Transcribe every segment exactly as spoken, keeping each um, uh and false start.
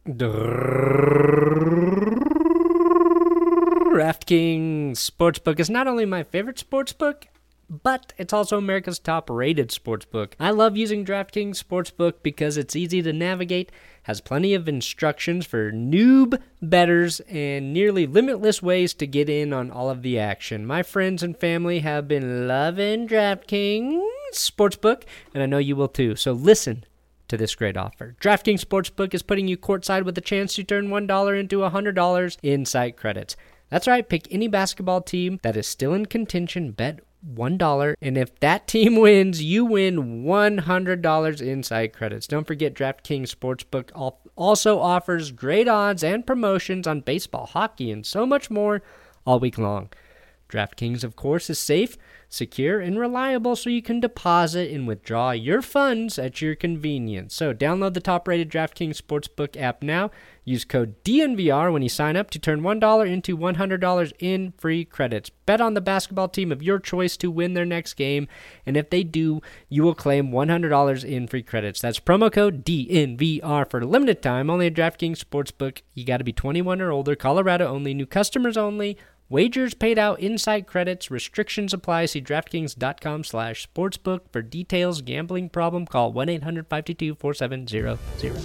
DraftKings Sportsbook is not only my favorite sportsbook, but it's also America's top-rated sportsbook. I love using DraftKings Sportsbook because it's easy to navigate, has plenty of instructions for noob bettors, and nearly limitless ways to get in on all of the action. My friends and family have been loving DraftKings Sportsbook, and I know you will too. So listen to this great offer. DraftKings Sportsbook is putting you courtside with a chance to turn one dollar into one hundred dollars in site credits. That's right, pick any basketball team that is still in contention, bet one dollar, and if that team wins, you win one hundred dollars in site credits. Don't forget, DraftKings Sportsbook also offers great odds and promotions on baseball, hockey, and so much more all week long. DraftKings, of course, is safe, secure, and reliable, so you can deposit and withdraw your funds at your convenience. So download the top-rated DraftKings Sportsbook app now. Use code D N V R when you sign up to turn one dollar into one hundred dollars in free credits. Bet on the basketball team of your choice to win their next game, and if they do, you will claim one hundred dollars in free credits. That's promo code D N V R for a limited time, only at DraftKings Sportsbook. You got to be twenty-one or older, Colorado only, new customers only. Wagers paid out inside credits. Restrictions apply. See DraftKings.com slash sportsbook for details. Gambling problem? Call one eight hundred five two two four seven zero zero.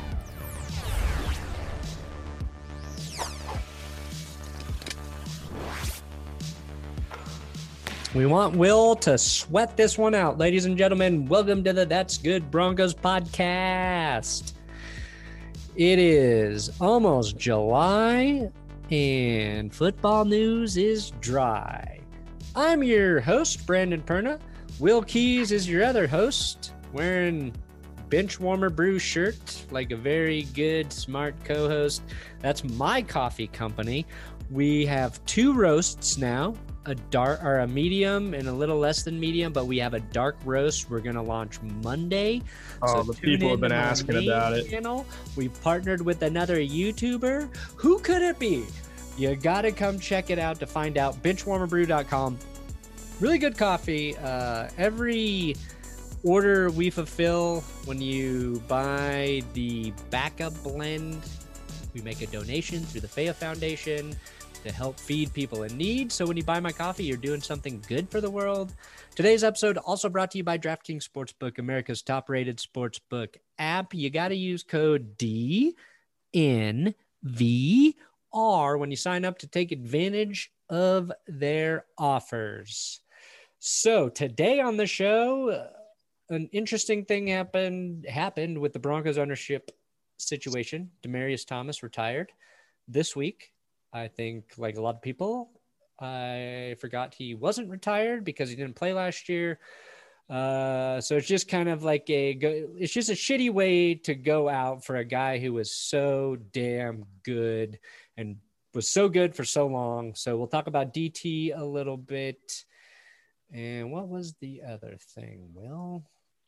We want Will to sweat this one out. Ladies and gentlemen, welcome to the That's Good Broncos podcast. It is almost July, and football news is dry. I'm your host, Brandon Perna. Will Keys is your other host, wearing bench warmer brew shirt like a very good, smart co-host. That's my coffee company. We have two roasts now, a dark or a medium and a little less than medium, but we have a dark roast we're going to launch Monday. Oh, so the people have been asking about it. Channel. We've partnered with another YouTuber. Who could it be? You got to come check it out to find out. bench warmer brew dot com. Really good coffee. Uh, every order we fulfill when you buy the backup blend, we make a donation through the Faya Foundation to help feed people in need. So when you buy my coffee, you're doing something good for the world. Today's episode also brought to you by DraftKings Sportsbook, America's top-rated sportsbook app. You got to use code D N V R when you sign up to take advantage of their offers. So today on the show, an interesting thing happened happened with the Broncos ownership situation. Demaryius Thomas retired this week. I think, like a lot of people, I forgot he wasn't retired because he didn't play last year. Uh, so it's just kind of like a, it's just a shitty way to go out for a guy who was so damn good and was so good for so long. So we'll talk about D T a little bit. And what was the other thing, Will?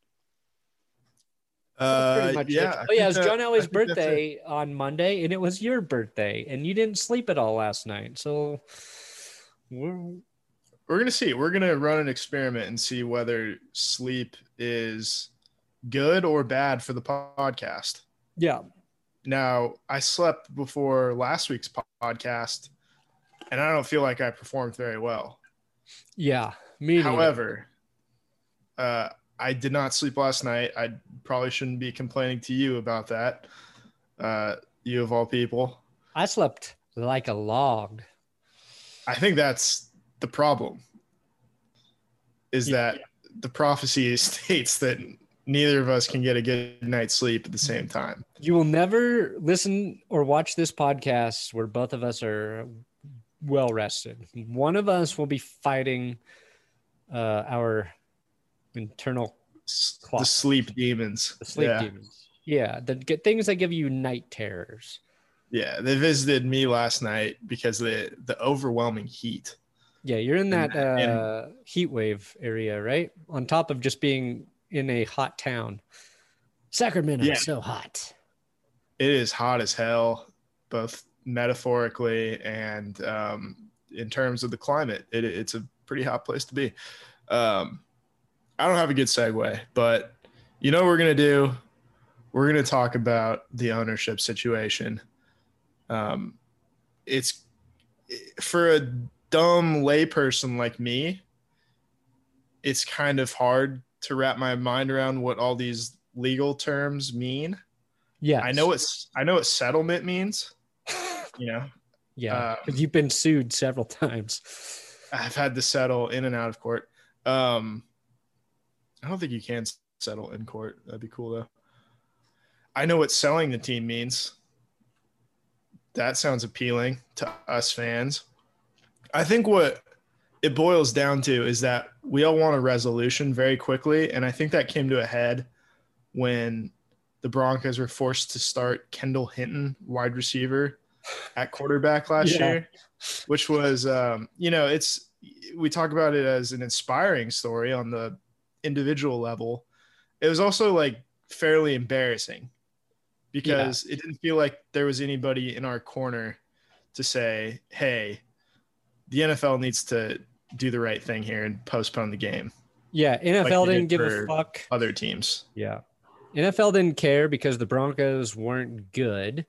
Uh, yeah. It. Oh, yeah, it was John that, Elway's birthday on Monday, and it was your birthday, and you didn't sleep at all last night. So we're, we're going to see. We're going to run an experiment and see whether sleep is good or bad for the podcast. Yeah. Now, I slept before last week's podcast, and I don't feel like I performed very well. Yeah. Me neither. However, uh, I did not sleep last night. I probably shouldn't be complaining to you about that. Uh, you of all people. I slept like a log. I think that's the problem. Is Yeah. that the prophecy states that neither of us can get a good night's sleep at the same time. You will never listen or watch this podcast where both of us are well rested. One of us will be fighting uh, our internal clock. The sleep demons. The sleep yeah. demons. Yeah, the g- things that give you night terrors. Yeah, they visited me last night because of the the overwhelming heat. Yeah, you're in that And- and- uh, heat wave area, right? On top of just being in a hot town. Sacramento Yeah. is so hot. It is hot as hell, both metaphorically and um, in terms of the climate. It, it's a pretty hot place to be. Um, I don't have a good segue, but you know what we're going to do? we're going to talk about the ownership situation. Um, it's for a dumb layperson like me, it's kind of hard to wrap my mind around what all these legal terms mean. Yeah, I know it's I know what settlement means. You know, yeah, because um, you've been sued several times. I've had to settle in and out of court. Um, I don't think you can settle in court. That'd be cool though. I know what selling the team means. That sounds appealing to us fans. I think what it boils down to is that we all want a resolution very quickly, and I think that came to a head when the Broncos were forced to start Kendall Hinton, wide receiver, at quarterback last Yeah. year, which was, um, you know, it's we talk about it as an inspiring story on the individual level. It was also like fairly embarrassing because yeah. it didn't feel like there was anybody in our corner to say, hey, the N F L needs to do the right thing here and postpone the game. Yeah, N F L like didn't give a fuck. Other teams. Yeah. N F L didn't care because the Broncos weren't good.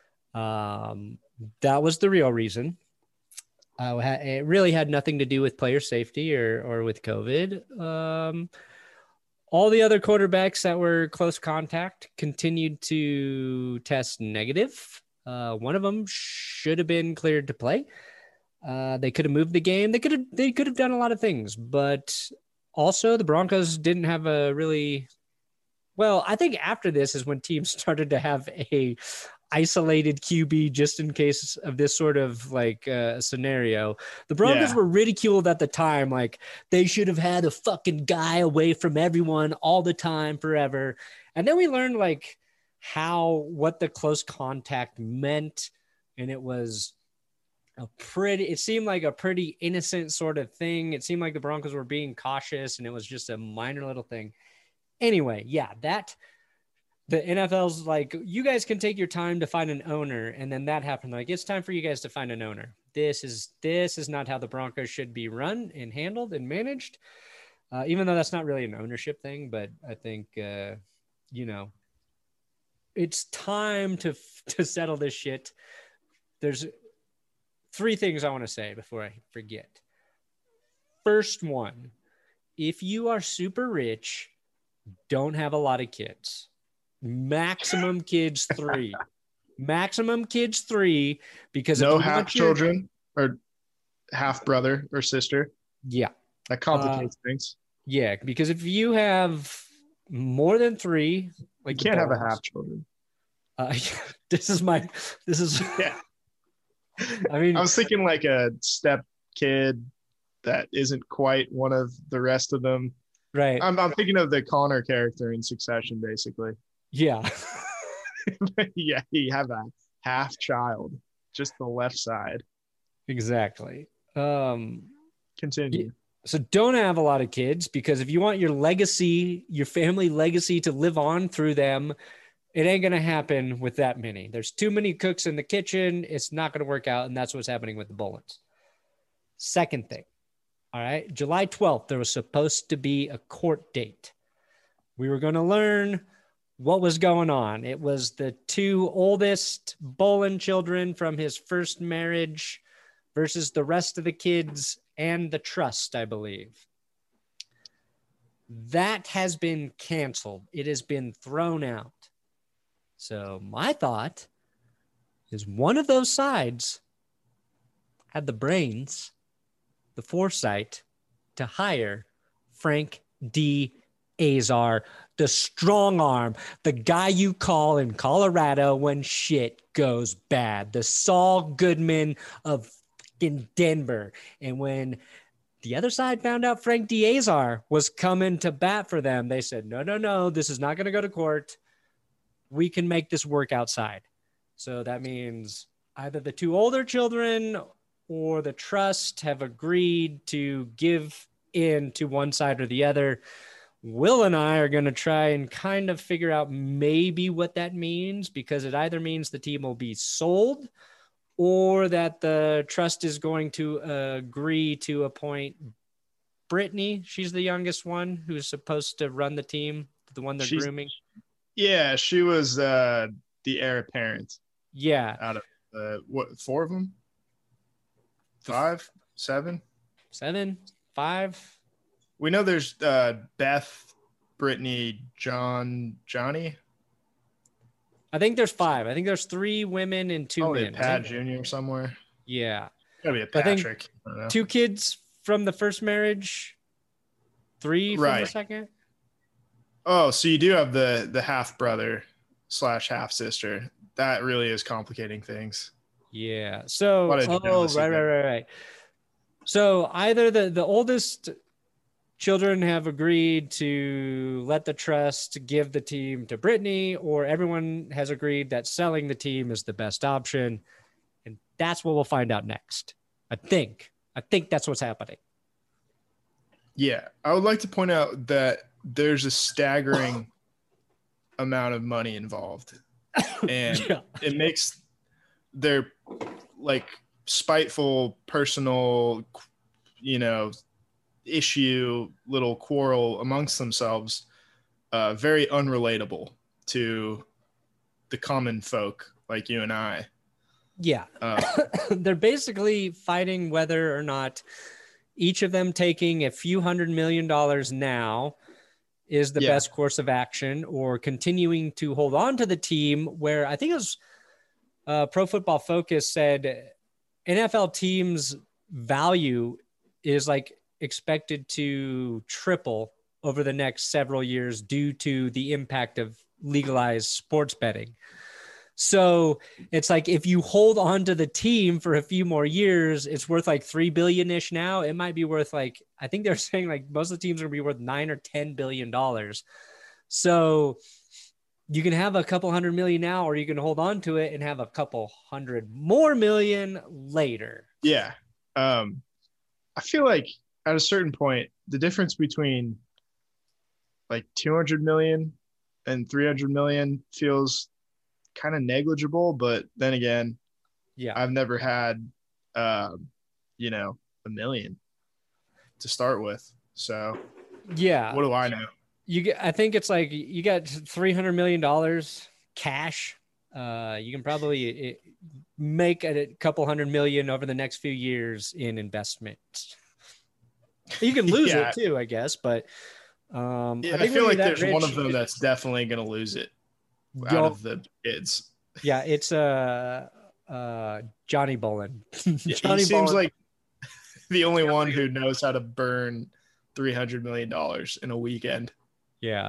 Um, that was the real reason. Uh, it really had nothing to do with player safety or or with COVID. Um, all the other quarterbacks that were close contact continued to test negative. Uh, one of them should have been cleared to play. Uh, they could have moved the game. They could have they could have done a lot of things, but also the Broncos didn't have a really well. I think after this is when teams started to have a isolated Q B just in case of this sort of like uh, scenario. The Broncos yeah. were ridiculed at the time, like they should have had a fucking guy away from everyone all the time forever. And then we learned like how what the close contact meant, and it was a pretty it seemed like a pretty innocent sort of thing. It seemed like the Broncos were being cautious and it was just a minor little thing. Anyway, yeah, that the N F L's like, you guys can take your time to find an owner. And then that happened. Like, it's time for you guys to find an owner. This is, this is not how the Broncos should be run and handled and managed. Uh, even though that's not really an ownership thing, but I think, uh, you know, it's time to, to settle this shit. There's three things I want to say before I forget. First one, if you are super rich, don't have a lot of kids. Maximum kids three. Maximum kids three, because no if half your... children or half brother or sister. Yeah. That complicates uh, things. Yeah, because if you have more than three, like you can't have a half children. Uh, this is my this is yeah. I mean I was thinking like a step kid that isn't quite one of the rest of them. Right. I'm I'm thinking of the Connor character in Succession, basically. Yeah. yeah, you have a half child, just the left side. Exactly. Um, Continue. So don't have a lot of kids, because if you want your legacy, your family legacy to live on through them, it ain't going to happen with that many. There's too many cooks in the kitchen. It's not going to work out. And that's what's happening with the Bolins. Second thing. All right. July twelfth, there was supposed to be a court date. We were going to learn what was going on. It was the two oldest Bolin children from his first marriage versus the rest of the kids and the trust, I believe. That has been canceled. It has been thrown out. So my thought is one of those sides had the brains, the foresight to hire Frank D. Azar, the strong arm, the guy you call in Colorado when shit goes bad, the Saul Goodman of in Denver. And when the other side found out Frank D. Azar was coming to bat for them, they said, no, no, no, this is not going to go to court. We can make this work outside. So that means either the two older children or the trust have agreed to give in to one side or the other. Will and I are going to try and kind of figure out maybe what that means, because it either means the team will be sold or that the trust is going to uh, agree to appoint Brittany. She's the youngest one who's supposed to run the team, the one they're she's, grooming. Yeah, she was uh, the heir apparent Yeah. out of uh, what four of them, five, seven, seven, five. We know there's uh, Beth, Brittany, John, Johnny. I think there's five. I think there's three women and two Probably men. a Pat Junior somewhere. Yeah. Gotta be a I think Patrick. I don't know. Two kids from the first marriage, three from Right. the second. Oh, so you do have the the half brother slash half sister. That really is complicating things. Yeah. So, What a oh, jealousy right, right, there. right, right. So either the, the oldest children have agreed to let the trust give the team to Brittany, or everyone has agreed that selling the team is the best option. And that's what we'll find out next. I think. I think that's what's happening. Yeah. I would like to point out that there's a staggering amount of money involved. And Yeah. it makes their like spiteful personal, you know, issue, little quarrel amongst themselves, uh, very unrelatable to the common folk like you and I. Yeah. Uh, They're basically fighting whether or not each of them taking a few hundred million dollars now is the Yeah. best course of action, or continuing to hold on to the team where I think it was uh, Pro Football Focus said N F L teams' value is like expected to triple over the next several years due to the impact of legalized sports betting. So it's like if you hold on to the team for a few more years, it's worth like three billion ish now. It might be worth like, I think they're saying like most of the teams are gonna be worth nine or ten billion dollars. So you can have a couple hundred million now, or you can hold on to it and have a couple hundred more million later. yeah. Um, I feel like at a certain point, the difference between like two hundred million and three hundred million feels kind of negligible. But then again, Yeah. I've never had, um, you know, a million to start with. So Yeah. what do I know? You get, I think it's like you got three hundred million dollars cash. Uh, you can probably it, make a couple hundred million over the next few years in investments. You can lose Yeah. it too, I guess, but um, Yeah, I, I, think feel when like you're that there's one rich, of them that's definitely going to lose it out you'll- of the kids. yeah, it's uh, uh, Johnny Bolin. Yeah, Johnny he seems Bolin- like the only one who knows how to burn three hundred million dollars in a weekend. Yeah.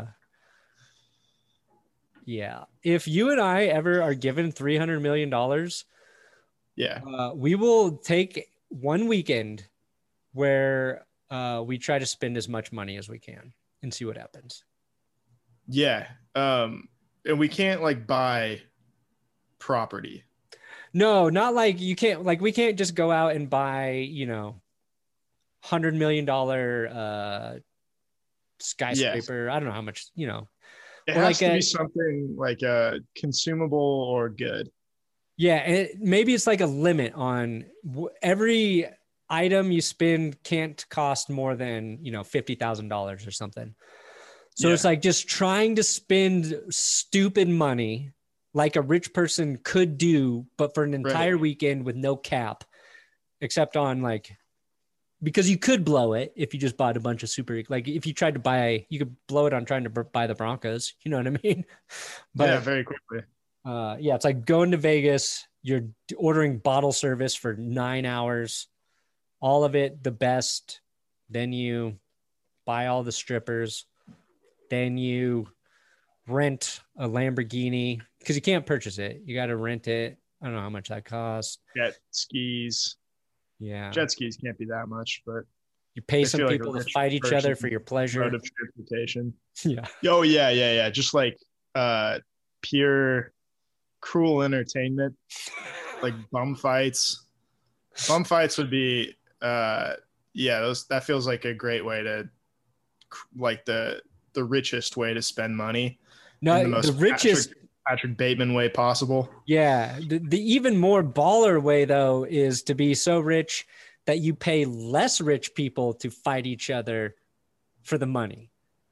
Yeah. If you and I ever are given three hundred million dollars, Yeah. uh, we will take one weekend where uh, we try to spend as much money as we can and see what happens. Yeah. Um, and we can't like buy property. No, not like you can't, like we can't just go out and buy, you know, hundred million dollar uh, skyscraper. Yes. I don't know how much, you know. It or has like to a, be something like a consumable or good. Yeah, and it, maybe it's like a limit on w- every item you spend can't cost more than, you know, fifty thousand dollars or something. So yeah. It's like just trying to spend stupid money like a rich person could do, but for an entire right. weekend with no cap, except on like, because you could blow it if you just bought a bunch of super, like if you tried to buy, you could blow it on trying to buy the Broncos, you know what I mean? But yeah, very quickly. Uh, yeah, it's like going to Vegas, you're ordering bottle service for nine hours, all of it the best. Then you buy all the strippers. Then you rent a Lamborghini because you can't purchase it. You got to rent it. I don't know how much that costs. Jet skis. Yeah. Jet skis can't be that much, but you pay some people like to fight each other for your pleasure. Mode of transportation. Yeah. Oh, yeah, yeah, yeah. Just like uh, pure cruel entertainment, like bum fights. Bum fights would be, uh, yeah, those that feels like a great way to, like the the richest way to spend money. No, the, most the richest Patrick, Patrick Bateman way possible. Yeah, the, the even more baller way though is to be so rich that you pay less rich people to fight each other for the money.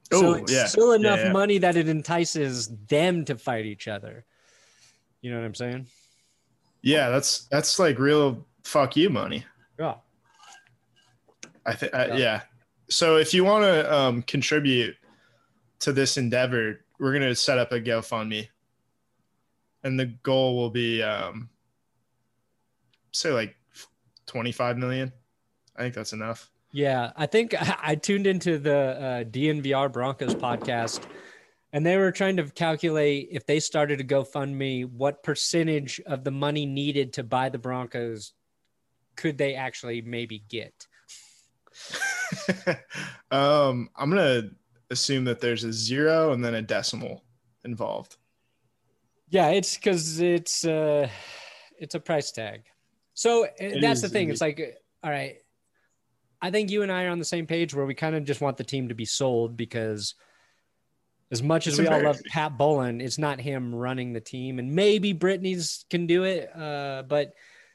So Oh it's yeah, still yeah, enough yeah. money that it entices them to fight each other. You know what I'm saying? Yeah, that's that's like real fuck you money. Yeah. I think, uh, Yeah. yeah. So if you want to um, contribute to this endeavor, we're gonna set up a GoFundMe, and the goal will be, um, say, like twenty-five million. I think that's enough. Yeah, I think I tuned into the uh, D N V R Broncos podcast, and they were trying to calculate if they started a GoFundMe, what percentage of the money needed to buy the Broncos could they actually maybe get? um, I'm gonna assume that there's a zero and then a decimal involved. Yeah, it's because it's uh, it's a price tag. So uh, It that's the is thing. indeed. It's like, all right, I think you and I are on the same page where we kind of just want the team to be sold because as much as It's we all love embarrassing. Pat Bolin, it's not him running the team. And maybe Brittany's can do it. Uh, but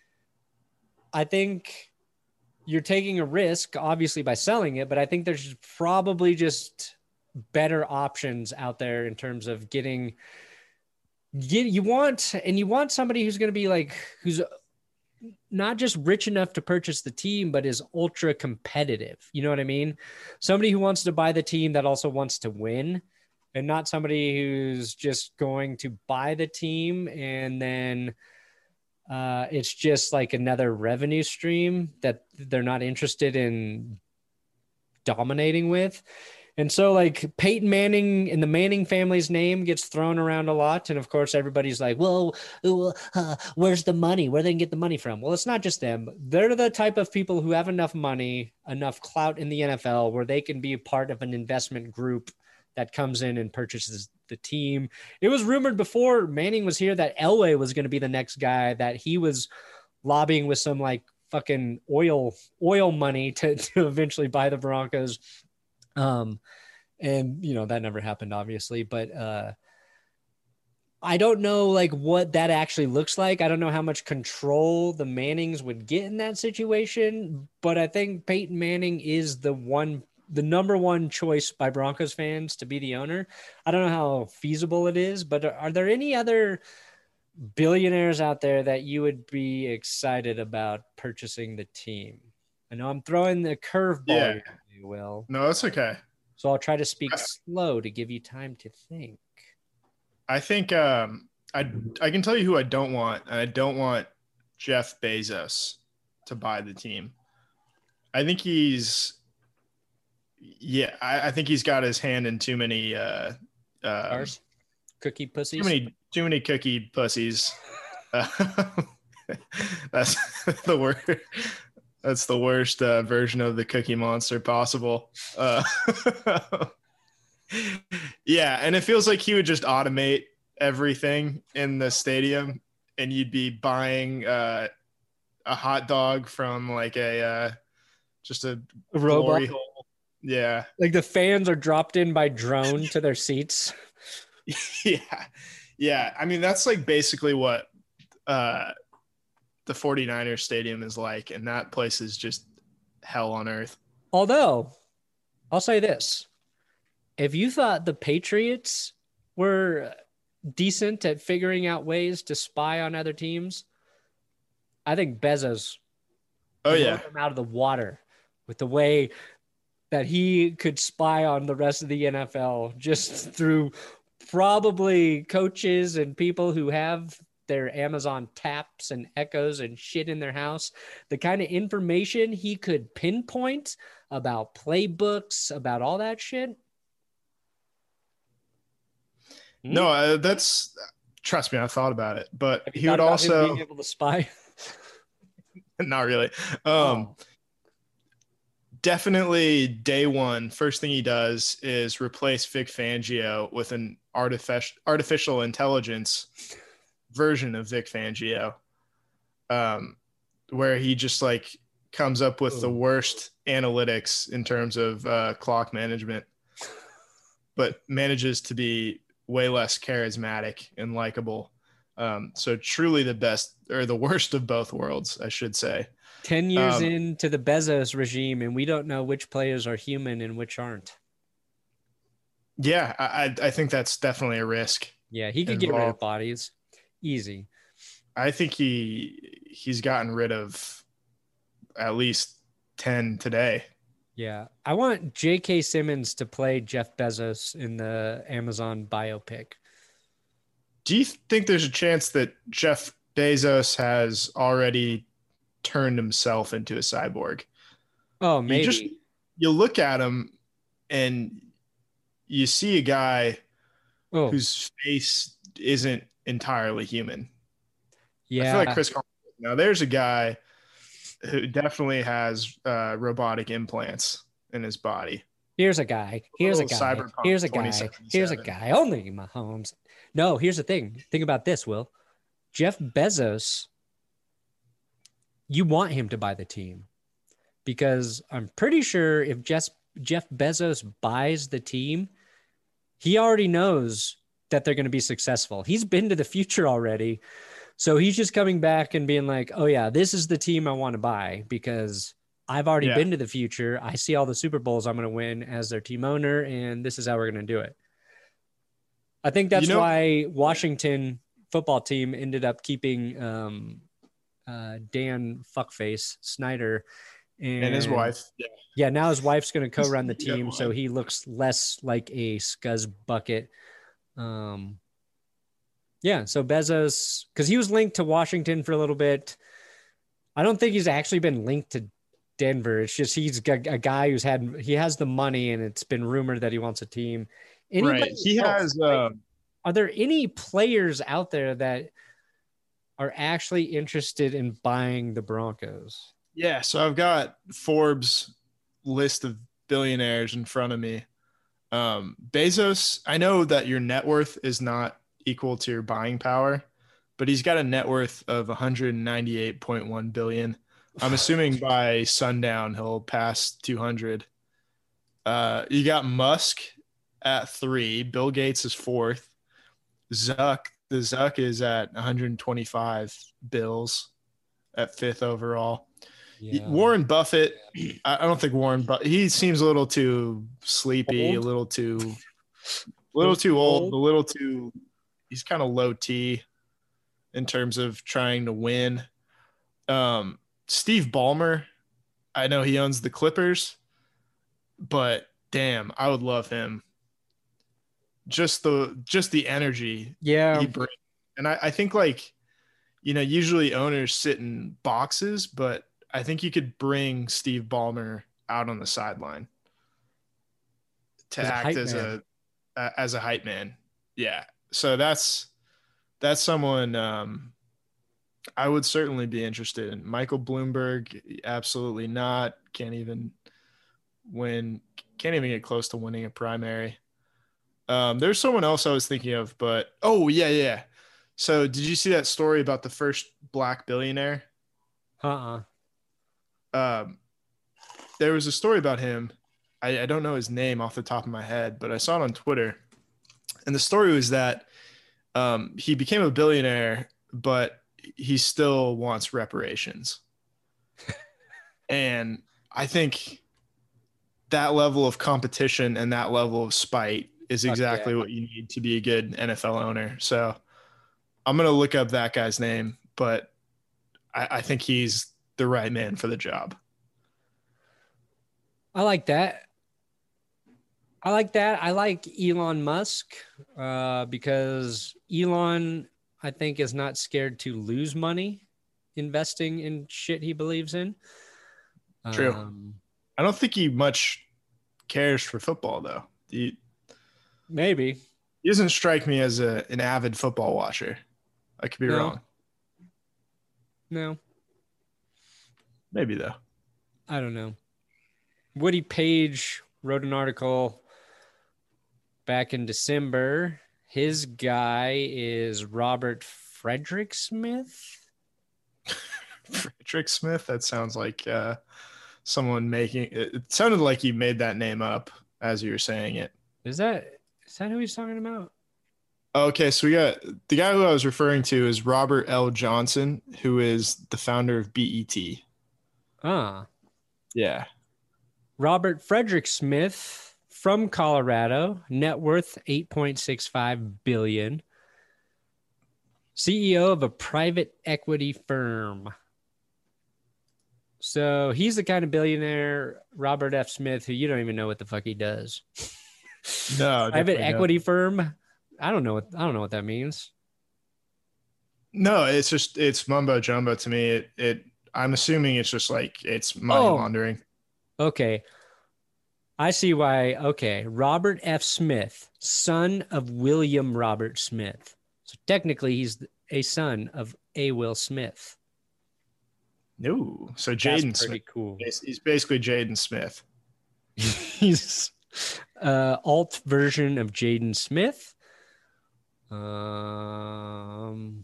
I think you're taking a risk, obviously, by selling it. But I think there's probably just better options out there in terms of getting get you want and you want somebody who's going to be like who's not just rich enough to purchase the team, but is ultra competitive. You know what I mean? Somebody who wants to buy the team that also wants to win, and not somebody who's just going to buy the team and then uh, it's just like another revenue stream that they're not interested in dominating with. And so, like, Peyton Manning and the Manning family's name gets thrown around a lot. And of course, everybody's like, well, uh, where's the money? Where they can get the money from? Well, it's not just them. They're the type of people who have enough money, enough clout in the N F L where they can be a part of an investment group that comes in and purchases the team. It was rumored before Manning was here that Elway was going to be the next guy, that he was lobbying with some like fucking oil oil money to, to eventually buy the Broncos. Um, and you know, that never happened, obviously, but uh, I don't know like what that actually looks like. I don't know how much control the Mannings would get in that situation, but I think Peyton Manning is the one, the number one choice by Broncos fans to be the owner. I don't know how feasible it is, but are there any other billionaires out there that you would be excited about purchasing the team? I know I'm throwing the curveball Yeah. here, Will. No, that's okay. So I'll try to speak slow to give you time to think. I think um, I I can tell you who I don't want, and I don't want Jeff Bezos to buy the team. I think he's, yeah, I, I think he's got his hand in too many, uh, um, Cookie pussies. too many, too many cookie pussies. Uh, that's the word. That's the worst uh, version of the Cookie Monster possible. Uh, yeah, and it feels like he would just automate everything in the stadium, and you'd be buying uh, a hot dog from like a uh, just a, A glory robot. hole. Yeah, Like the fans are dropped in by drone to their seats. yeah, yeah. I mean, that's like basically what uh, the 49ers stadium is like, and that place is just hell on earth. Although, I'll say this. If you thought the Patriots were decent at figuring out ways to spy on other teams, I think Bezos Oh blew yeah, them out of the water with the way that he could spy on the rest of the N F L just through probably coaches and people who have their Amazon taps and echoes and shit in their house. The kind of information he could pinpoint about playbooks, about all that shit. no, uh, that's trust me, I thought about it, but Have you he thought would about also him being able to spy? not really. Um, Oh. Definitely day one, first thing he does is replace Vic Fangio with an artificial artificial intelligence version of Vic Fangio, um, where he just like comes up with Ooh. the worst analytics in terms of uh, clock management, but manages to be way less charismatic and likable. Um, so truly the best or the worst of both worlds, I should say. ten years Um, into the Bezos regime, and we don't know which players are human and which aren't. Yeah, I I think that's definitely a risk Yeah, he could get rid of involved. bodies. Easy. I think he he's gotten rid of at least ten today. Yeah. I want J K. Simmons to play Jeff Bezos in the Amazon biopic. Do you think there's a chance that Jeff Bezos has already turned himself into a cyborg? Oh, You just maybe. you look at him and you see a guy Oh, whose face isn't entirely human. I feel like yeah. Chris Collinsworth. Now there's a guy who definitely has uh, robotic implants in his body. Here's a guy. A Here's a little guy. cyberpunk Here's a guy. Here's a twenty seventy-seven. guy. Only Mahomes. No, here's the thing. Think about this, Will. Jeff Bezos, you want him to buy the team because I'm pretty sure if Jeff, Jeff Bezos buys the team, he already knows that they're going to be successful. He's been to the future already. So he's just coming back and being like, oh, yeah, this is the team I want to buy because I've already Yeah. been to the future. I see all the Super Bowls I'm going to win as their team owner, and this is how we're going to do it. I think that's You know, why Washington football team ended up keeping um, uh, Dan Fuckface Snyder. And, and his wife. Yeah. yeah, now his wife's going to co-run the Yeah, team, so he looks less like a scuzz bucket. Um, yeah, so Bezos, because he was linked to Washington for a little bit. I don't think he's actually been linked to Denver. It's just he's a, a guy who's had he has the money, and it's been rumored that he wants a team. Anybody Right. He else? has. Like, Uh, are there any players out there that are actually interested in buying the Broncos? yeah. So I've got Forbes list of billionaires in front of me. Um, Bezos. I know that your net worth is not equal to your buying power, but he's got a net worth of one hundred ninety-eight point one billion. I'm assuming by sundown he'll pass two hundred. Uh, you got Musk at three. Bill Gates is fourth. Zuck, the Zuck is at one hundred twenty-five bills at fifth overall. Yeah. Warren Buffett, I don't think Warren, but he seems a little too sleepy, Old? a little too, a little too old, a little too. He's kind of low T in terms of trying to win. Um, Steve Ballmer, I know he owns the Clippers, but damn, I would love him. Just the just the energy Yeah. he brings, and I, I think like, you know, usually owners sit in boxes, but I think you could bring Steve Ballmer out on the sideline to As a act hype as man. a as a hype man. Yeah, so that's that's someone um, I would certainly be interested in. Michael Bloomberg, absolutely not. Can't even win. Can't even get close to winning a primary. Um, there's someone else I was thinking of, but oh yeah, yeah. So did you see that story about the first black billionaire? Uh-uh. Um, there was a story about him. I, I don't know his name off the top of my head, but I saw it on Twitter. And the story was that um, he became a billionaire, but he still wants reparations. And I think that level of competition and that level of spite is Fuck exactly yeah. what you need to be a good N F L owner. So I'm going to look up that guy's name, but I, I think he's the right man for the job. I like that. I like that. I like Elon Musk uh, because Elon, I think, is not scared to lose money investing in shit he believes in. True. Um, I don't think he much cares for football, though. He, maybe. he doesn't strike me as a, an avid football watcher. I could be No. wrong. No, Maybe, though. I don't know. Woody Page wrote an article back in December. His guy is Robert Frederick Smith. Frederick Smith? That sounds like uh, someone making it. It sounded like you made that name up as you were saying it. Is that is that who he's talking about? Okay, so we got the guy who I was referring to is Robert L. Johnson, who is the founder of B E T. Ah, Yeah. Robert Frederick Smith from Colorado, net worth eight point six five billion. C E O of a private equity firm. So he's the kind of billionaire, Robert F. Smith, who you don't even know what the fuck he does. No, private equity don't. firm. I don't know what I don't know what that means. No, it's just it's mumbo jumbo to me. It it I'm assuming it's just like it's money Oh, laundering. Okay. I see why. Okay. Robert F. Smith, son of William Robert Smith. So technically, he's a son of A. Will Smith. No. So Jaden That's pretty Smith. cool. He's basically Jaden Smith. He's uh alt version of Jaden Smith. Um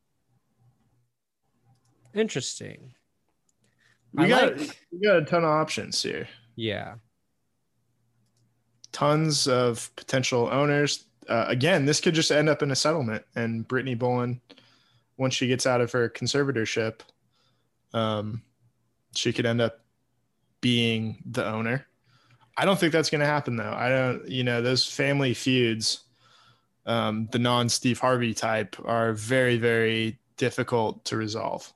interesting. We I got like, we got a ton of options here. yeah. Tons of potential owners. Uh, again, this could just end up in a settlement, and Brittany Bolin, once she gets out of her conservatorship, um, she could end up being the owner. I don't think that's going to happen, though. I don't, you know, those family feuds, um, the non-Steve Harvey type, are very, very difficult to resolve.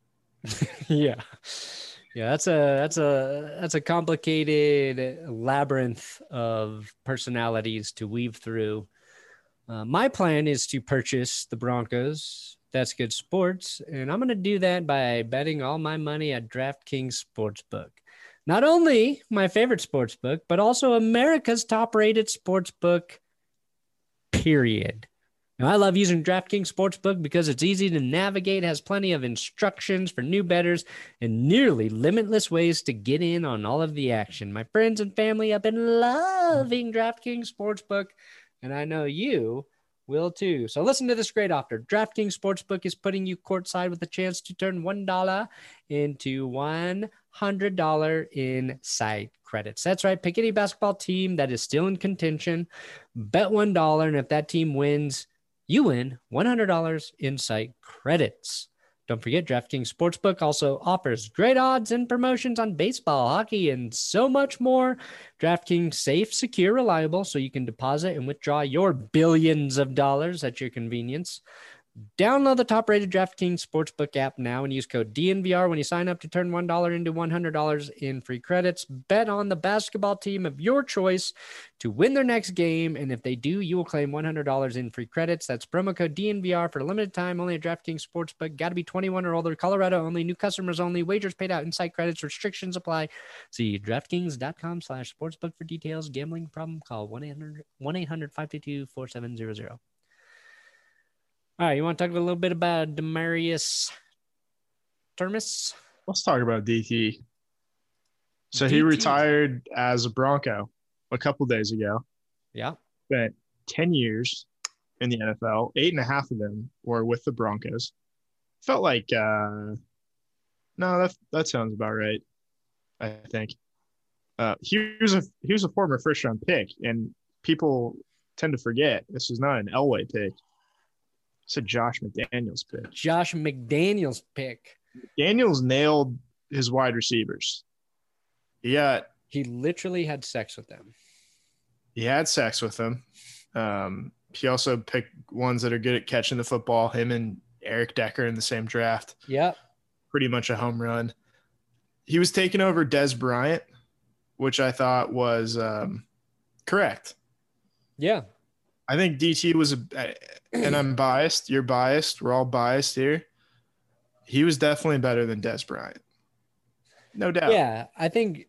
Yeah. Yeah, that's a that's a that's a complicated labyrinth of personalities to weave through. Uh, my plan is to purchase the Broncos. That's Good Sports, and I'm going to do that by betting all my money at DraftKings Sportsbook. Not only my favorite sportsbook, but also America's top-rated sportsbook. Period. Now, I love using DraftKings Sportsbook because it's easy to navigate, has plenty of instructions for new bettors, and nearly limitless ways to get in on all of the action. My friends and family have been loving DraftKings Sportsbook, and I know you will too. So listen to this great offer. DraftKings Sportsbook is putting you courtside with a chance to turn one dollar into one hundred dollars in site credits. That's right. Pick any basketball team that is still in contention. Bet one dollar, and if that team wins, you win one hundred dollars in site credits. Don't forget, DraftKings Sportsbook also offers great odds and promotions on baseball, hockey, and so much more. DraftKings safe, secure, reliable, so you can deposit and withdraw your billions of dollars at your convenience. Download the top-rated DraftKings Sportsbook app now and use code D N V R when you sign up to turn one dollar into one hundred dollars in free credits. Bet on the basketball team of your choice to win their next game, and if they do, you will claim one hundred dollars in free credits. That's promo code D N V R for a limited time, only at DraftKings Sportsbook. Got to be twenty-one or older, Colorado only, new customers only, wagers paid out in site credits, restrictions apply. See DraftKings.com slash sportsbook for details. Gambling problem, call one eight hundred five two two four seven zero zero. All right, you want to talk a little bit about Demaryius Thomas? Let's talk about D T. So D T. he retired as a Bronco a couple days ago. Yeah. Spent ten years in the N F L. Eight and a half of them were with the Broncos. Felt like, uh, no, that that sounds about right, I think. Uh, he was a he was a former first round pick, and people tend to forget this is not an Elway pick. It's a Josh McDaniels pick. Josh McDaniels pick. Daniels nailed his wide receivers. He got He literally had sex with them. he had sex with them. Um, he also picked ones that are good at catching the football. Him and Eric Decker in the same draft. Yep. Pretty much a home run. He was taking over Des Bryant, which I thought was um, correct. Yeah. I think D T was a, and I'm biased. You're biased. We're all biased here. He was definitely better than Des Bryant. No doubt. Yeah. I think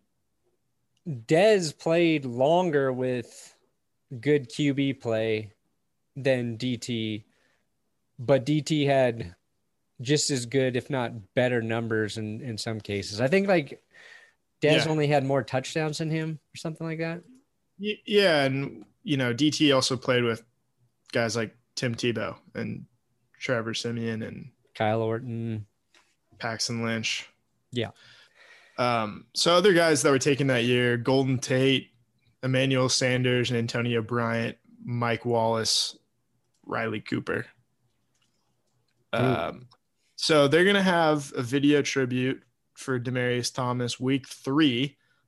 Dez played longer with good Q B play than D T, but D T had just as good, if not better, numbers in, in some cases. I think like Dez Yeah. only had more touchdowns than him or something like that. Y- Yeah, and you know, D T also played with guys like Tim Tebow and Trevor Siemian and Kyle Orton. Paxton Lynch. Yeah. Um, so other guys that were taken that year, Golden Tate, Emmanuel Sanders, and Antonio Bryant, Mike Wallace, Riley Cooper. Um, so they're going to have a video tribute for Demaryius Thomas week three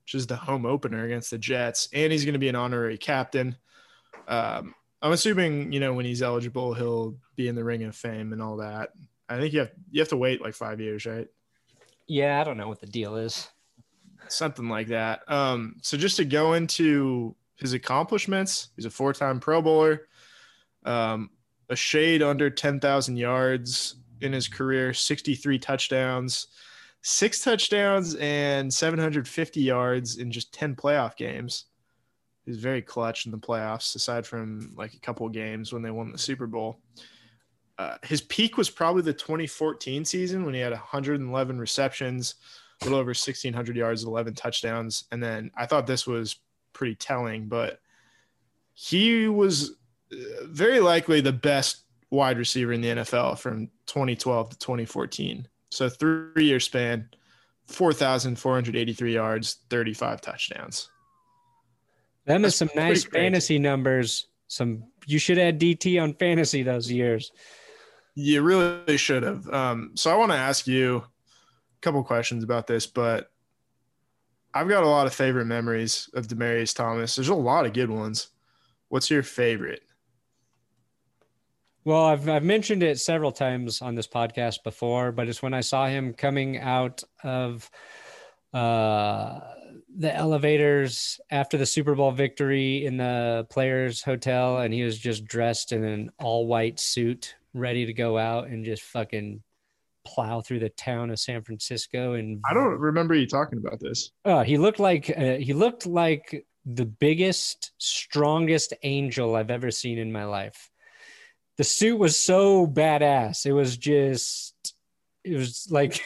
which is the home opener against the Jets, and he's going to be an honorary captain. Um, I'm assuming, you know, when he's eligible, he'll be in the Ring of Fame and all that. I think you have you have to wait like five years, right? Yeah, I don't know what the deal is. Something like that. Um, so just to go into his accomplishments, he's a four-time Pro Bowler, um, a shade under ten thousand yards in his career, sixty-three touchdowns, six touchdowns, and seven hundred fifty yards in just ten playoff games. He's very clutch in the playoffs, aside from like a couple of games when they won the Super Bowl. Uh, his peak was probably the twenty fourteen season when he had one hundred eleven receptions, a little over sixteen hundred yards, eleven touchdowns. And then I thought this was pretty telling, but he was very likely the best wide receiver in the N F L from twenty twelve to twenty fourteen. So three-year span, four thousand four hundred eighty-three yards, thirty-five touchdowns. Them is some nice fantasy numbers. Some you should add D T on fantasy those years. You really should have. Um, so I want to ask you a couple questions about this, but I've got a lot of favorite memories of Demaryius Thomas. There's a lot of good ones. What's your favorite? Well, I've I've mentioned it several times on this podcast before, but it's when I saw him coming out of uh, the elevators after the Super Bowl victory in the Players Hotel, and he was just dressed in an all-white suit, ready to go out and just fucking plow through the town of San Francisco. And I don't remember you talking about this. Oh, he looked like uh, he looked like the biggest, strongest angel I've ever seen in my life. The suit was so badass. It was just, it was like,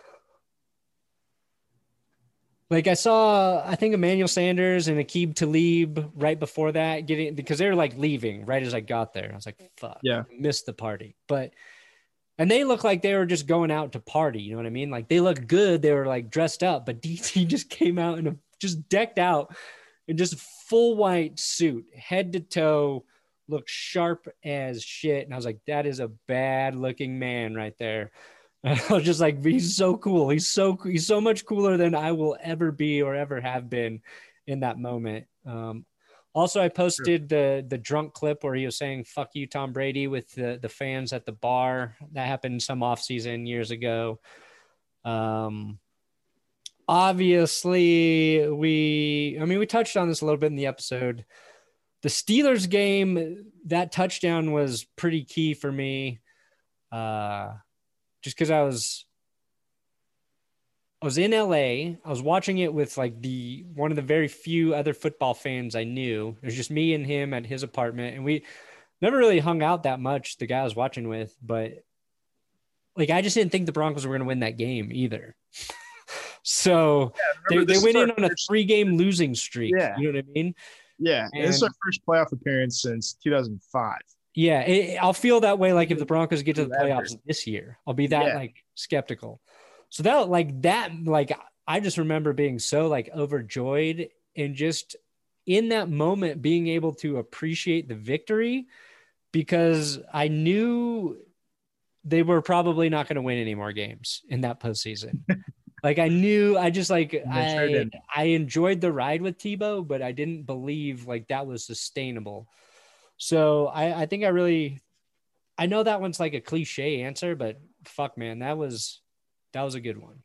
like I saw, I think Emmanuel Sanders and Aqib Talib right before that getting, because they were like leaving right as I got there. I was like, fuck, yeah, I missed the party. But, and they looked like they were just going out to party. You know what I mean? Like they looked good. They were like dressed up, but D T just came out in a, just decked out in just full white suit, head to toe, looked sharp as shit. And I was like, that is a bad looking man right there. And I was just like, he's so cool. He's so, he's so much cooler than I will ever be or ever have been in that moment. Um, also, I posted the, the drunk clip where he was saying, fuck you, Tom Brady, with the, the fans at the bar. That happened some offseason years ago. Um, obviously we, I mean, we touched on this a little bit in the episode. The Steelers game, that touchdown was pretty key for me. Uh, just because I was, I was in L A. I was watching it with like the one of the very few other football fans I knew. It was just me and him at his apartment, and we never really hung out that much. The guy I was watching with, but like I just didn't think the Broncos were going to win that game either. So yeah, they, they went in on a three-game losing streak. Yeah. You know what I mean? Yeah, and this is our first playoff appearance since two thousand five. Yeah, it, I'll feel that way like if the Broncos get to the playoffs this year. I'll be that yeah. like skeptical. So that like that like I just remember being so like overjoyed and just in that moment being able to appreciate the victory because I knew they were probably not going to win any more games in that postseason. Like I knew, I just like, I, sure I enjoyed the ride with Tebow, but I didn't believe like that was sustainable. So I, I think I really, I know that one's like a cliche answer, but fuck man, that was, that was a good one.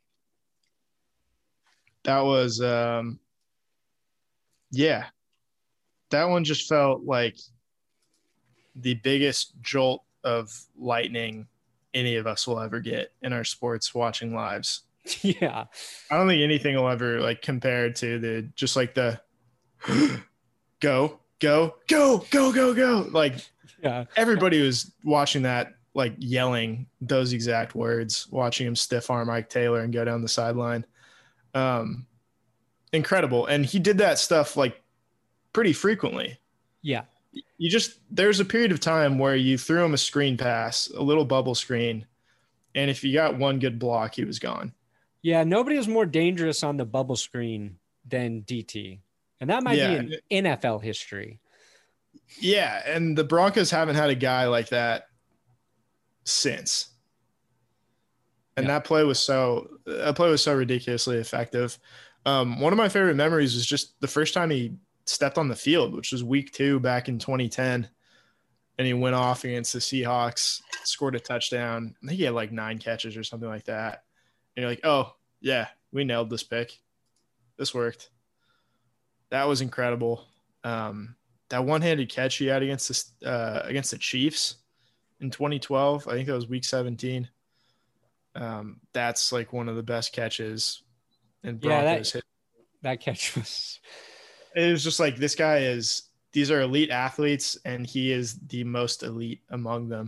That was, um, yeah, that one just felt like the biggest jolt of lightning any of us will ever get in our sports watching lives. Yeah. I don't think anything will ever like compare to the just like the go, go, go, go, go, go. Like yeah. Everybody was watching that, like yelling those exact words, watching him stiff arm Mike Taylor and go down the sideline. Um, incredible. And he did that stuff like pretty frequently. Yeah. You just, there's a period of time where you threw him a screen pass, a little bubble screen. And if you got one good block, he was gone. Yeah, nobody was more dangerous on the bubble screen than D T. And that might yeah. be in N F L history. Yeah, and the Broncos haven't had a guy like that since. And yeah. that play was so that play was so ridiculously effective. Um, one of my favorite memories was just the first time he stepped on the field, which was week two back in twenty ten. And he went off against the Seahawks, scored a touchdown. I think he had like nine catches or something like that. And you're like, oh, yeah, we nailed this pick. This worked. That was incredible. Um, that one-handed catch he had against the, uh, against the Chiefs in twenty twelve, I think that was week seventeen. Um, that's like one of the best catches in Broncos yeah, that, that catch was – it was just like this guy is – these are elite athletes, and he is the most elite among them.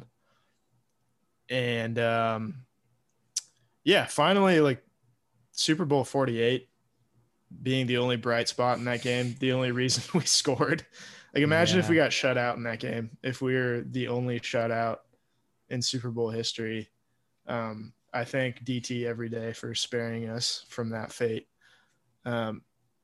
And, um, yeah, finally, like, Super Bowl forty-eight being the only bright spot in that game, the only reason we scored. Like, imagine yeah. if we got shut out in that game, if we were the only shutout in Super Bowl history. Um, I thank D T every day for sparing us from that fate. Um,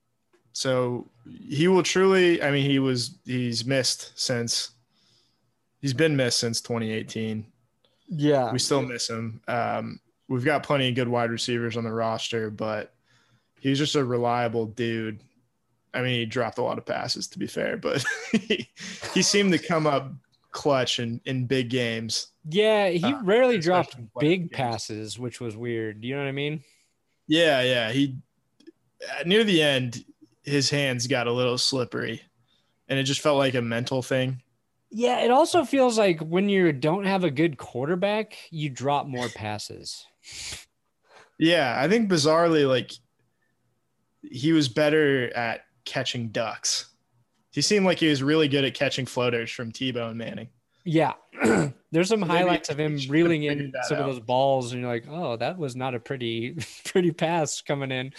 so he will truly, I mean, he was, he's missed since, he's been missed since twenty eighteen. Yeah. We still miss him. Um, we've got plenty of good wide receivers on the roster, but he's just a reliable dude. I mean, he dropped a lot of passes, to be fair, but he, he seemed to come up clutch in, in big games. Yeah, he uh, rarely dropped big passes, which was weird. You know what I mean? Yeah, yeah. He near the end, his hands got a little slippery, and it just felt like a mental thing. Yeah, it also feels like when you don't have a good quarterback, you drop more passes. Yeah, I think bizarrely, like, he was better at catching ducks. He seemed like he was really good at catching floaters from T-Bone Manning. Yeah. There's some Maybe highlights of him reeling in some out. of those balls, and you're like, oh, that was not a pretty, pretty pass coming in.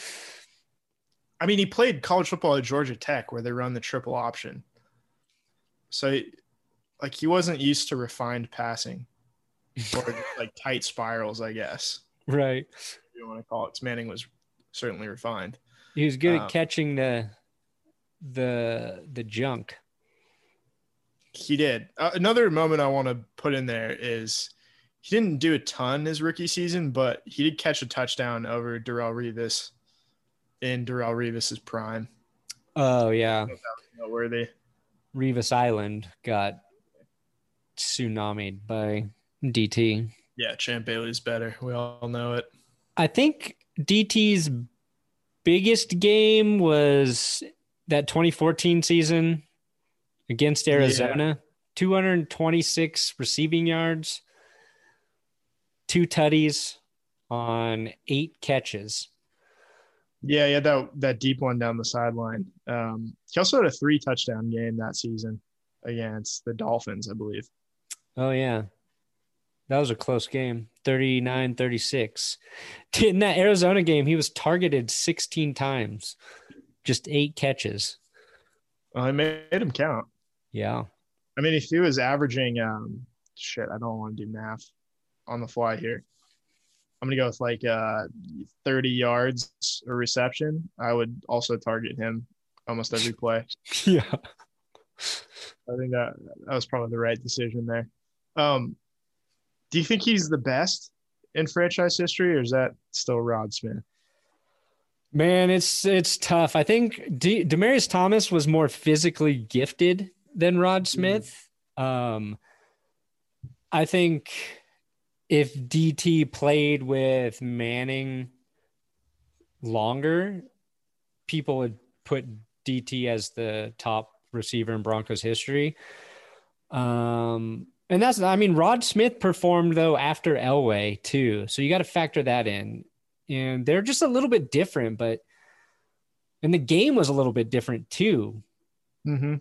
I mean, he played college football at Georgia Tech where they run the triple option. So, like, he wasn't used to refined passing or, like, tight spirals, I guess. Right. If you want to call it. Manning was certainly refined. He was good um, at catching the the the junk. He did. Uh, another moment I want to put in there is he didn't do a ton his rookie season, but he did catch a touchdown over Darrelle Revis in Darrelle Revis's prime. Oh, yeah. That was noteworthy. Revis Island got tsunamied by D T. Yeah, Champ Bailey's better. We all know it. I think D T's biggest game was that twenty fourteen season against Arizona. Yeah. two hundred twenty-six receiving yards, two tutties on eight catches. Yeah, yeah, that that deep one down the sideline. Um, he also had a three touchdown game that season against the Dolphins, I believe. Oh, yeah. That was a close game, thirty-nine thirty-six. In that Arizona game, he was targeted sixteen times, just eight catches. Well, it made him count. Yeah. I mean, if he was averaging um, – shit, I don't want to do math on the fly here. I'm going to go with like uh, thirty yards a reception. I would also target him almost every play. Yeah. I think that that was probably the right decision there. Um, do you think he's the best in franchise history, or is that still Rod Smith? Man, it's it's tough. I think D- Demaryius Thomas was more physically gifted than Rod Smith. Mm-hmm. Um, I think if D T played with Manning longer, people would put D T as the top receiver in Broncos history. Um, and that's, I mean, Rod Smith performed though after Elway too. So you got to factor that in, and they're just a little bit different, but, and the game was a little bit different too. Mm-hmm.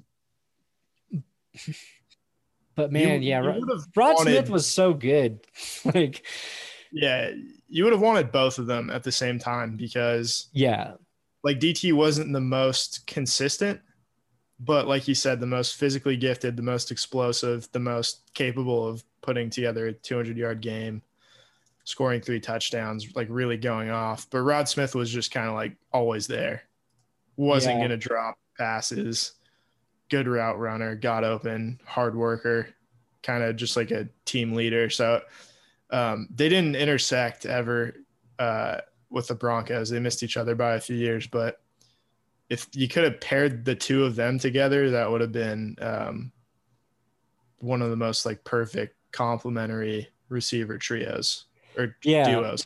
But man, you, yeah, you Rod wanted, Smith was so good. Like, yeah, you would have wanted both of them at the same time because yeah, like D T wasn't the most consistent, but like you said, the most physically gifted, the most explosive, the most capable of putting together a two hundred yard game, scoring three touchdowns, like really going off. But Rod Smith was just kind of like always there. Wasn't yeah. going to drop passes, good route runner, got open, hard worker, kind of just like a team leader. So um, they didn't intersect ever uh, with the Broncos. They missed each other by a few years, but if you could have paired the two of them together, that would have been um, one of the most like perfect complementary receiver trios or Yeah. duos.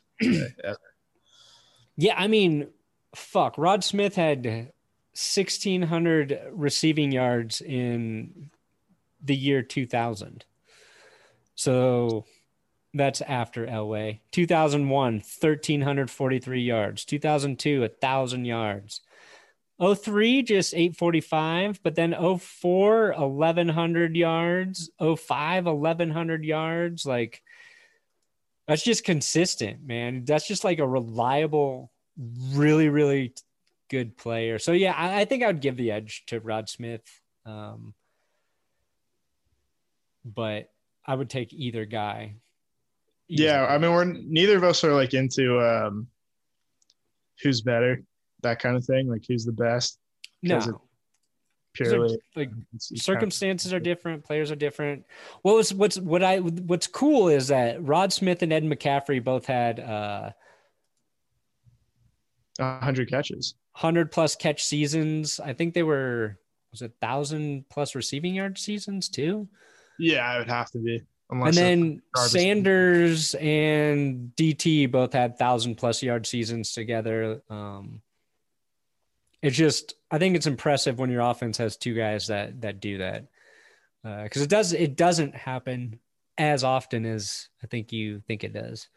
Yeah, I mean, fuck. Rod Smith had sixteen hundred receiving yards in the year two thousand. So that's after Elway. two thousand one, one thousand three hundred forty-three yards. two thousand two, one thousand yards. oh three, just eight forty-five. But then oh four, eleven hundred yards. oh five, eleven hundred yards. Like, that's just consistent, man. That's just like a reliable, really, really good player. So, yeah, I, I think I would give the edge to Rod Smith. Um, but I would take either guy. Easily. Yeah, I mean, we're neither of us are like into um, who's better, that kind of thing. Like, who's the best? No. Purely like circumstances are different, players are different. What was what's what I what's cool is that Rod Smith and Ed McCaffrey both had uh one hundred catches, one hundred plus catch seasons. I think they were was it one thousand plus receiving yard seasons too. Yeah, it would have to be. Unless and then Sanders and D T both had one thousand plus yard seasons together. Um, it's just, I think it's impressive when your offense has two guys that that do that, because uh, it does it doesn't happen as often as I think you think it does.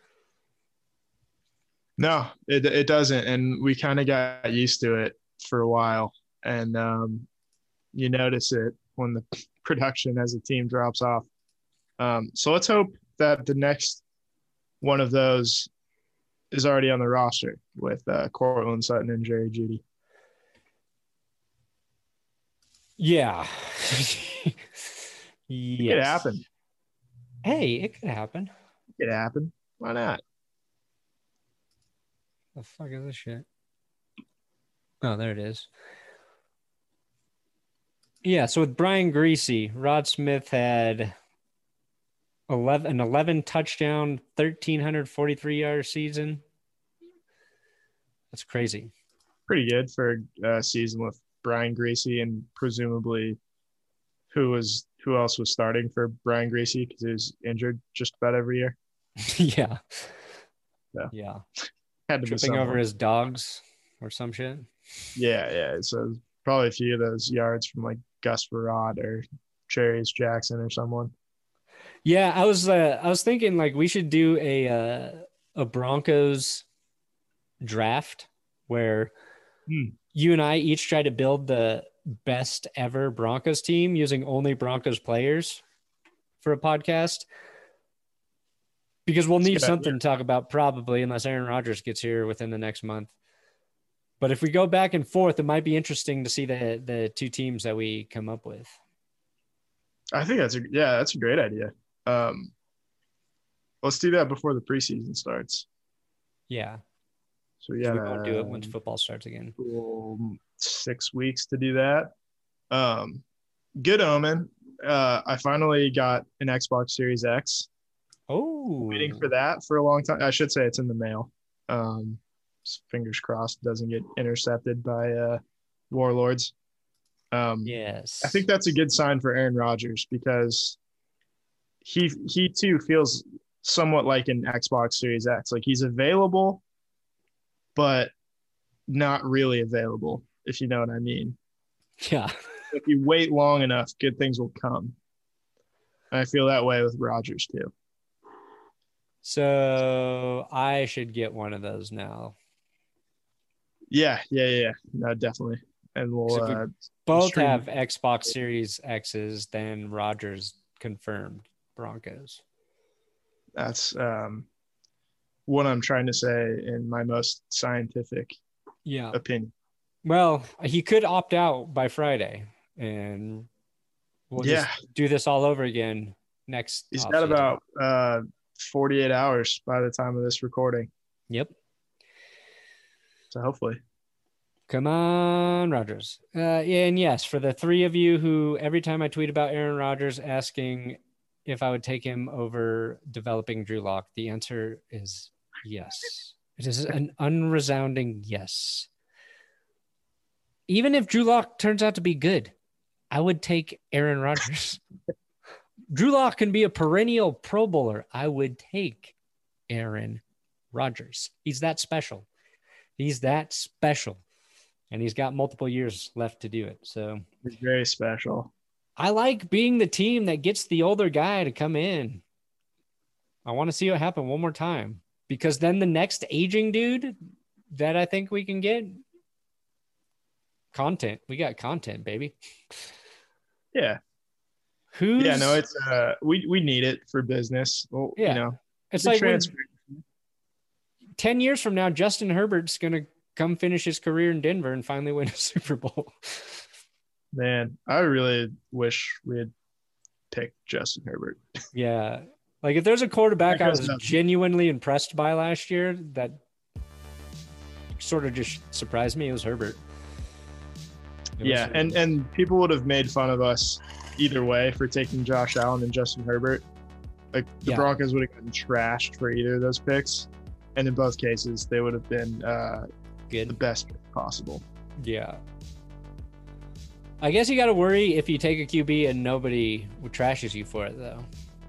No, it it doesn't, and we kind of got used to it for a while, and um, you notice it when the production as a team drops off. Um, so let's hope that the next one of those is already on the roster with uh, Courtland Sutton and Jerry Jeudy. Yeah. Yes. It could happen. Hey, it could happen. It could happen. Why not? The fuck is this shit? Oh, there it is. Yeah, so with Brian Griese, Rod Smith had eleven an eleven touchdown, one thousand three hundred forty-three yard season. That's crazy. Pretty good for a season with Brian Griese, and presumably who was who else was starting for Brian Griese because he was injured just about every year. yeah. So, yeah. Had to tripping over his dogs or some shit. Yeah, yeah. So probably a few of those yards from like Gus Farad or Cherries Jackson or someone. Yeah, I was uh, I was thinking like we should do a uh, a Broncos draft where hmm. you and I each try to build the best ever Broncos team using only Broncos players for a podcast. Because we'll need something to talk about probably unless Aaron Rodgers gets here within the next month. But if we go back and forth, it might be interesting to see the the two teams that we come up with. I think that's a yeah, that's a great idea. Um, let's do that before the preseason starts. Yeah. So yeah, we won't do it once football starts again. Six weeks to do that. Um, good omen. Uh, I finally got an Xbox Series X. Oh, waiting for that for a long time. I should say it's in the mail. Um, fingers crossed doesn't get intercepted by uh, warlords. Um, yes, I think that's a good sign for Aaron Rodgers because he he too feels somewhat like an Xbox Series X. Like he's available, but not really available, if you know what I mean. Yeah. If you wait long enough, good things will come. And I feel that way with Rodgers too. So I should get one of those now. Yeah, yeah, yeah. No, definitely. And we'll we uh, both stream. have Xbox Series X's, then Rodgers confirmed Broncos. That's um, what I'm trying to say in my most scientific yeah. opinion. Well, he could opt out by Friday, and we'll yeah. just do this all over again next. He's got season. about uh, forty-eight hours by the time of this recording. Yep. So hopefully. Come on, Rodgers. Uh, and yes, for the three of you who every time I tweet about Aaron Rodgers asking if I would take him over developing Drew Lock, the answer is yes. It is an unresounding yes. Even if Drew Lock turns out to be good, I would take Aaron Rodgers. Drew Lock can be a perennial Pro Bowler. I would take Aaron Rodgers. He's that special. He's that special. And he's got multiple years left to do it. So he's very special. I like being the team that gets the older guy to come in. I want to see it happen one more time, because then the next aging dude that I think we can get, content. We got content, baby. Yeah. Who's Yeah, no, it's uh we we need it for business. Well, yeah. you know. It's like when, transfer. ten years from now, Justin Herbert's going to come finish his career in Denver and finally win a Super Bowl. Man, I really wish we had picked Justin Herbert. Yeah. Like if there's a quarterback I was nothing. genuinely impressed by last year that sort of just surprised me, it was Herbert. It Yeah, was, and and people would have made fun of us either way for taking Josh Allen and Justin Herbert. Like the Yeah. Broncos would have gotten trashed for either of those picks, and in both cases, they would have been uh, the good. best pick possible. Yeah. I guess you got to worry if you take a Q B and nobody trashes you for it, though.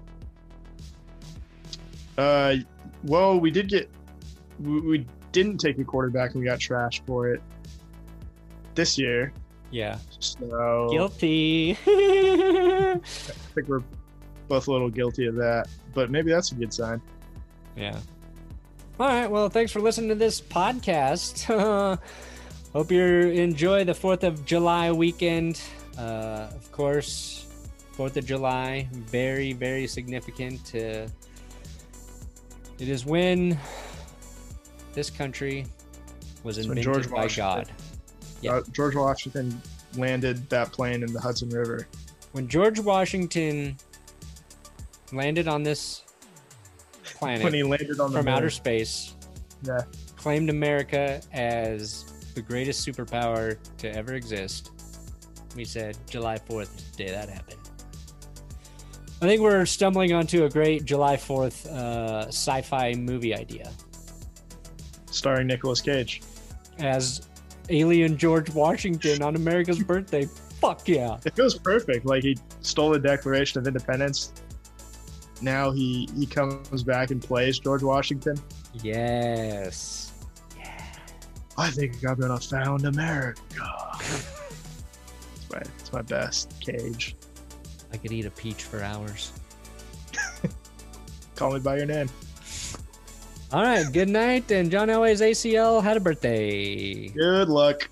Uh, well, we did get we, we didn't take a quarterback and we got trashed for it this year. Yeah. So Guilty. I think we're both a little guilty of that, but maybe that's a good sign. Yeah. All right. Well, thanks for listening to this podcast. Hope you enjoy the fourth of July weekend. Uh, of course, fourth of July, very, very significant. Uh, it is when this country was It's when invented George by Washington- God. Yeah. Uh, George Washington landed that plane in the Hudson River. When George Washington landed on this planet When he landed on the from moon. outer space, Yeah. claimed America as the greatest superpower to ever exist. We said July fourth is the day that happened. I think we're stumbling onto a great July fourth uh, sci-fi movie idea Starring Nicolas Cage. as alien George Washington on America's birthday. Fuck yeah. It feels perfect. Like he stole the Declaration of Independence. Now he he comes back and plays George Washington. Yes. I think I'm gonna found America. It's my it's my best Cage. I could eat a peach for hours. Call me by your name. All right, good night. And John Elway's A C L had a birthday. Good luck.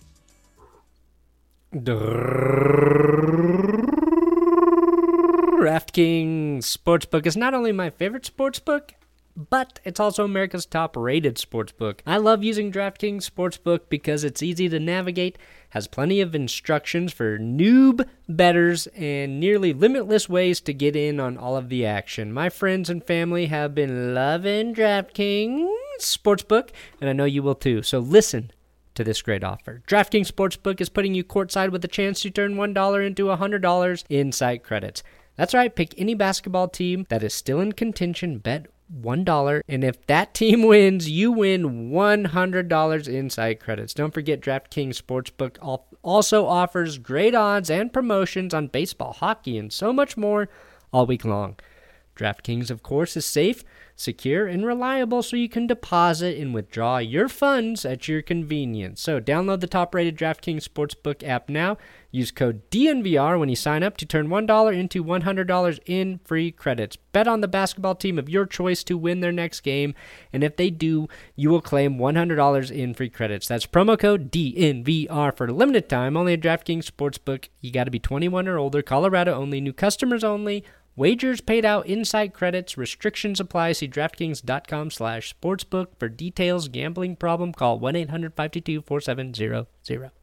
DraftKings Sportsbook is not only my favorite sportsbook, but it's also America's top-rated sportsbook. I love using DraftKings Sportsbook because it's easy to navigate, has plenty of instructions for noob bettors, and nearly limitless ways to get in on all of the action. My friends and family have been loving DraftKings Sportsbook, and I know you will too. So listen to this great offer. DraftKings Sportsbook is putting you courtside with a chance to turn one dollar into one hundred dollars in site credits. That's right, pick any basketball team that is still in contention, bet one dollar, and if that team wins, you win one hundred dollars in site credits. Don't forget, DraftKings Sportsbook also offers great odds and promotions on baseball, hockey, and so much more all week long. DraftKings, of course, is safe, secure, and reliable, so you can deposit and withdraw your funds at your convenience. So download the top-rated DraftKings Sportsbook app now. Use code D N V R when you sign up to turn one dollar into one hundred dollars in free credits. Bet on the basketball team of your choice to win their next game, and if they do, you will claim one hundred dollars in free credits. That's promo code D N V R for a limited time, only at DraftKings Sportsbook. You got to be twenty-one or older, Colorado only, new customers only. Wagers paid out inside credits. Restrictions apply. See DraftKings.com slash sportsbook for details. Gambling problem? Call one eight hundred five two two four seven zero zero.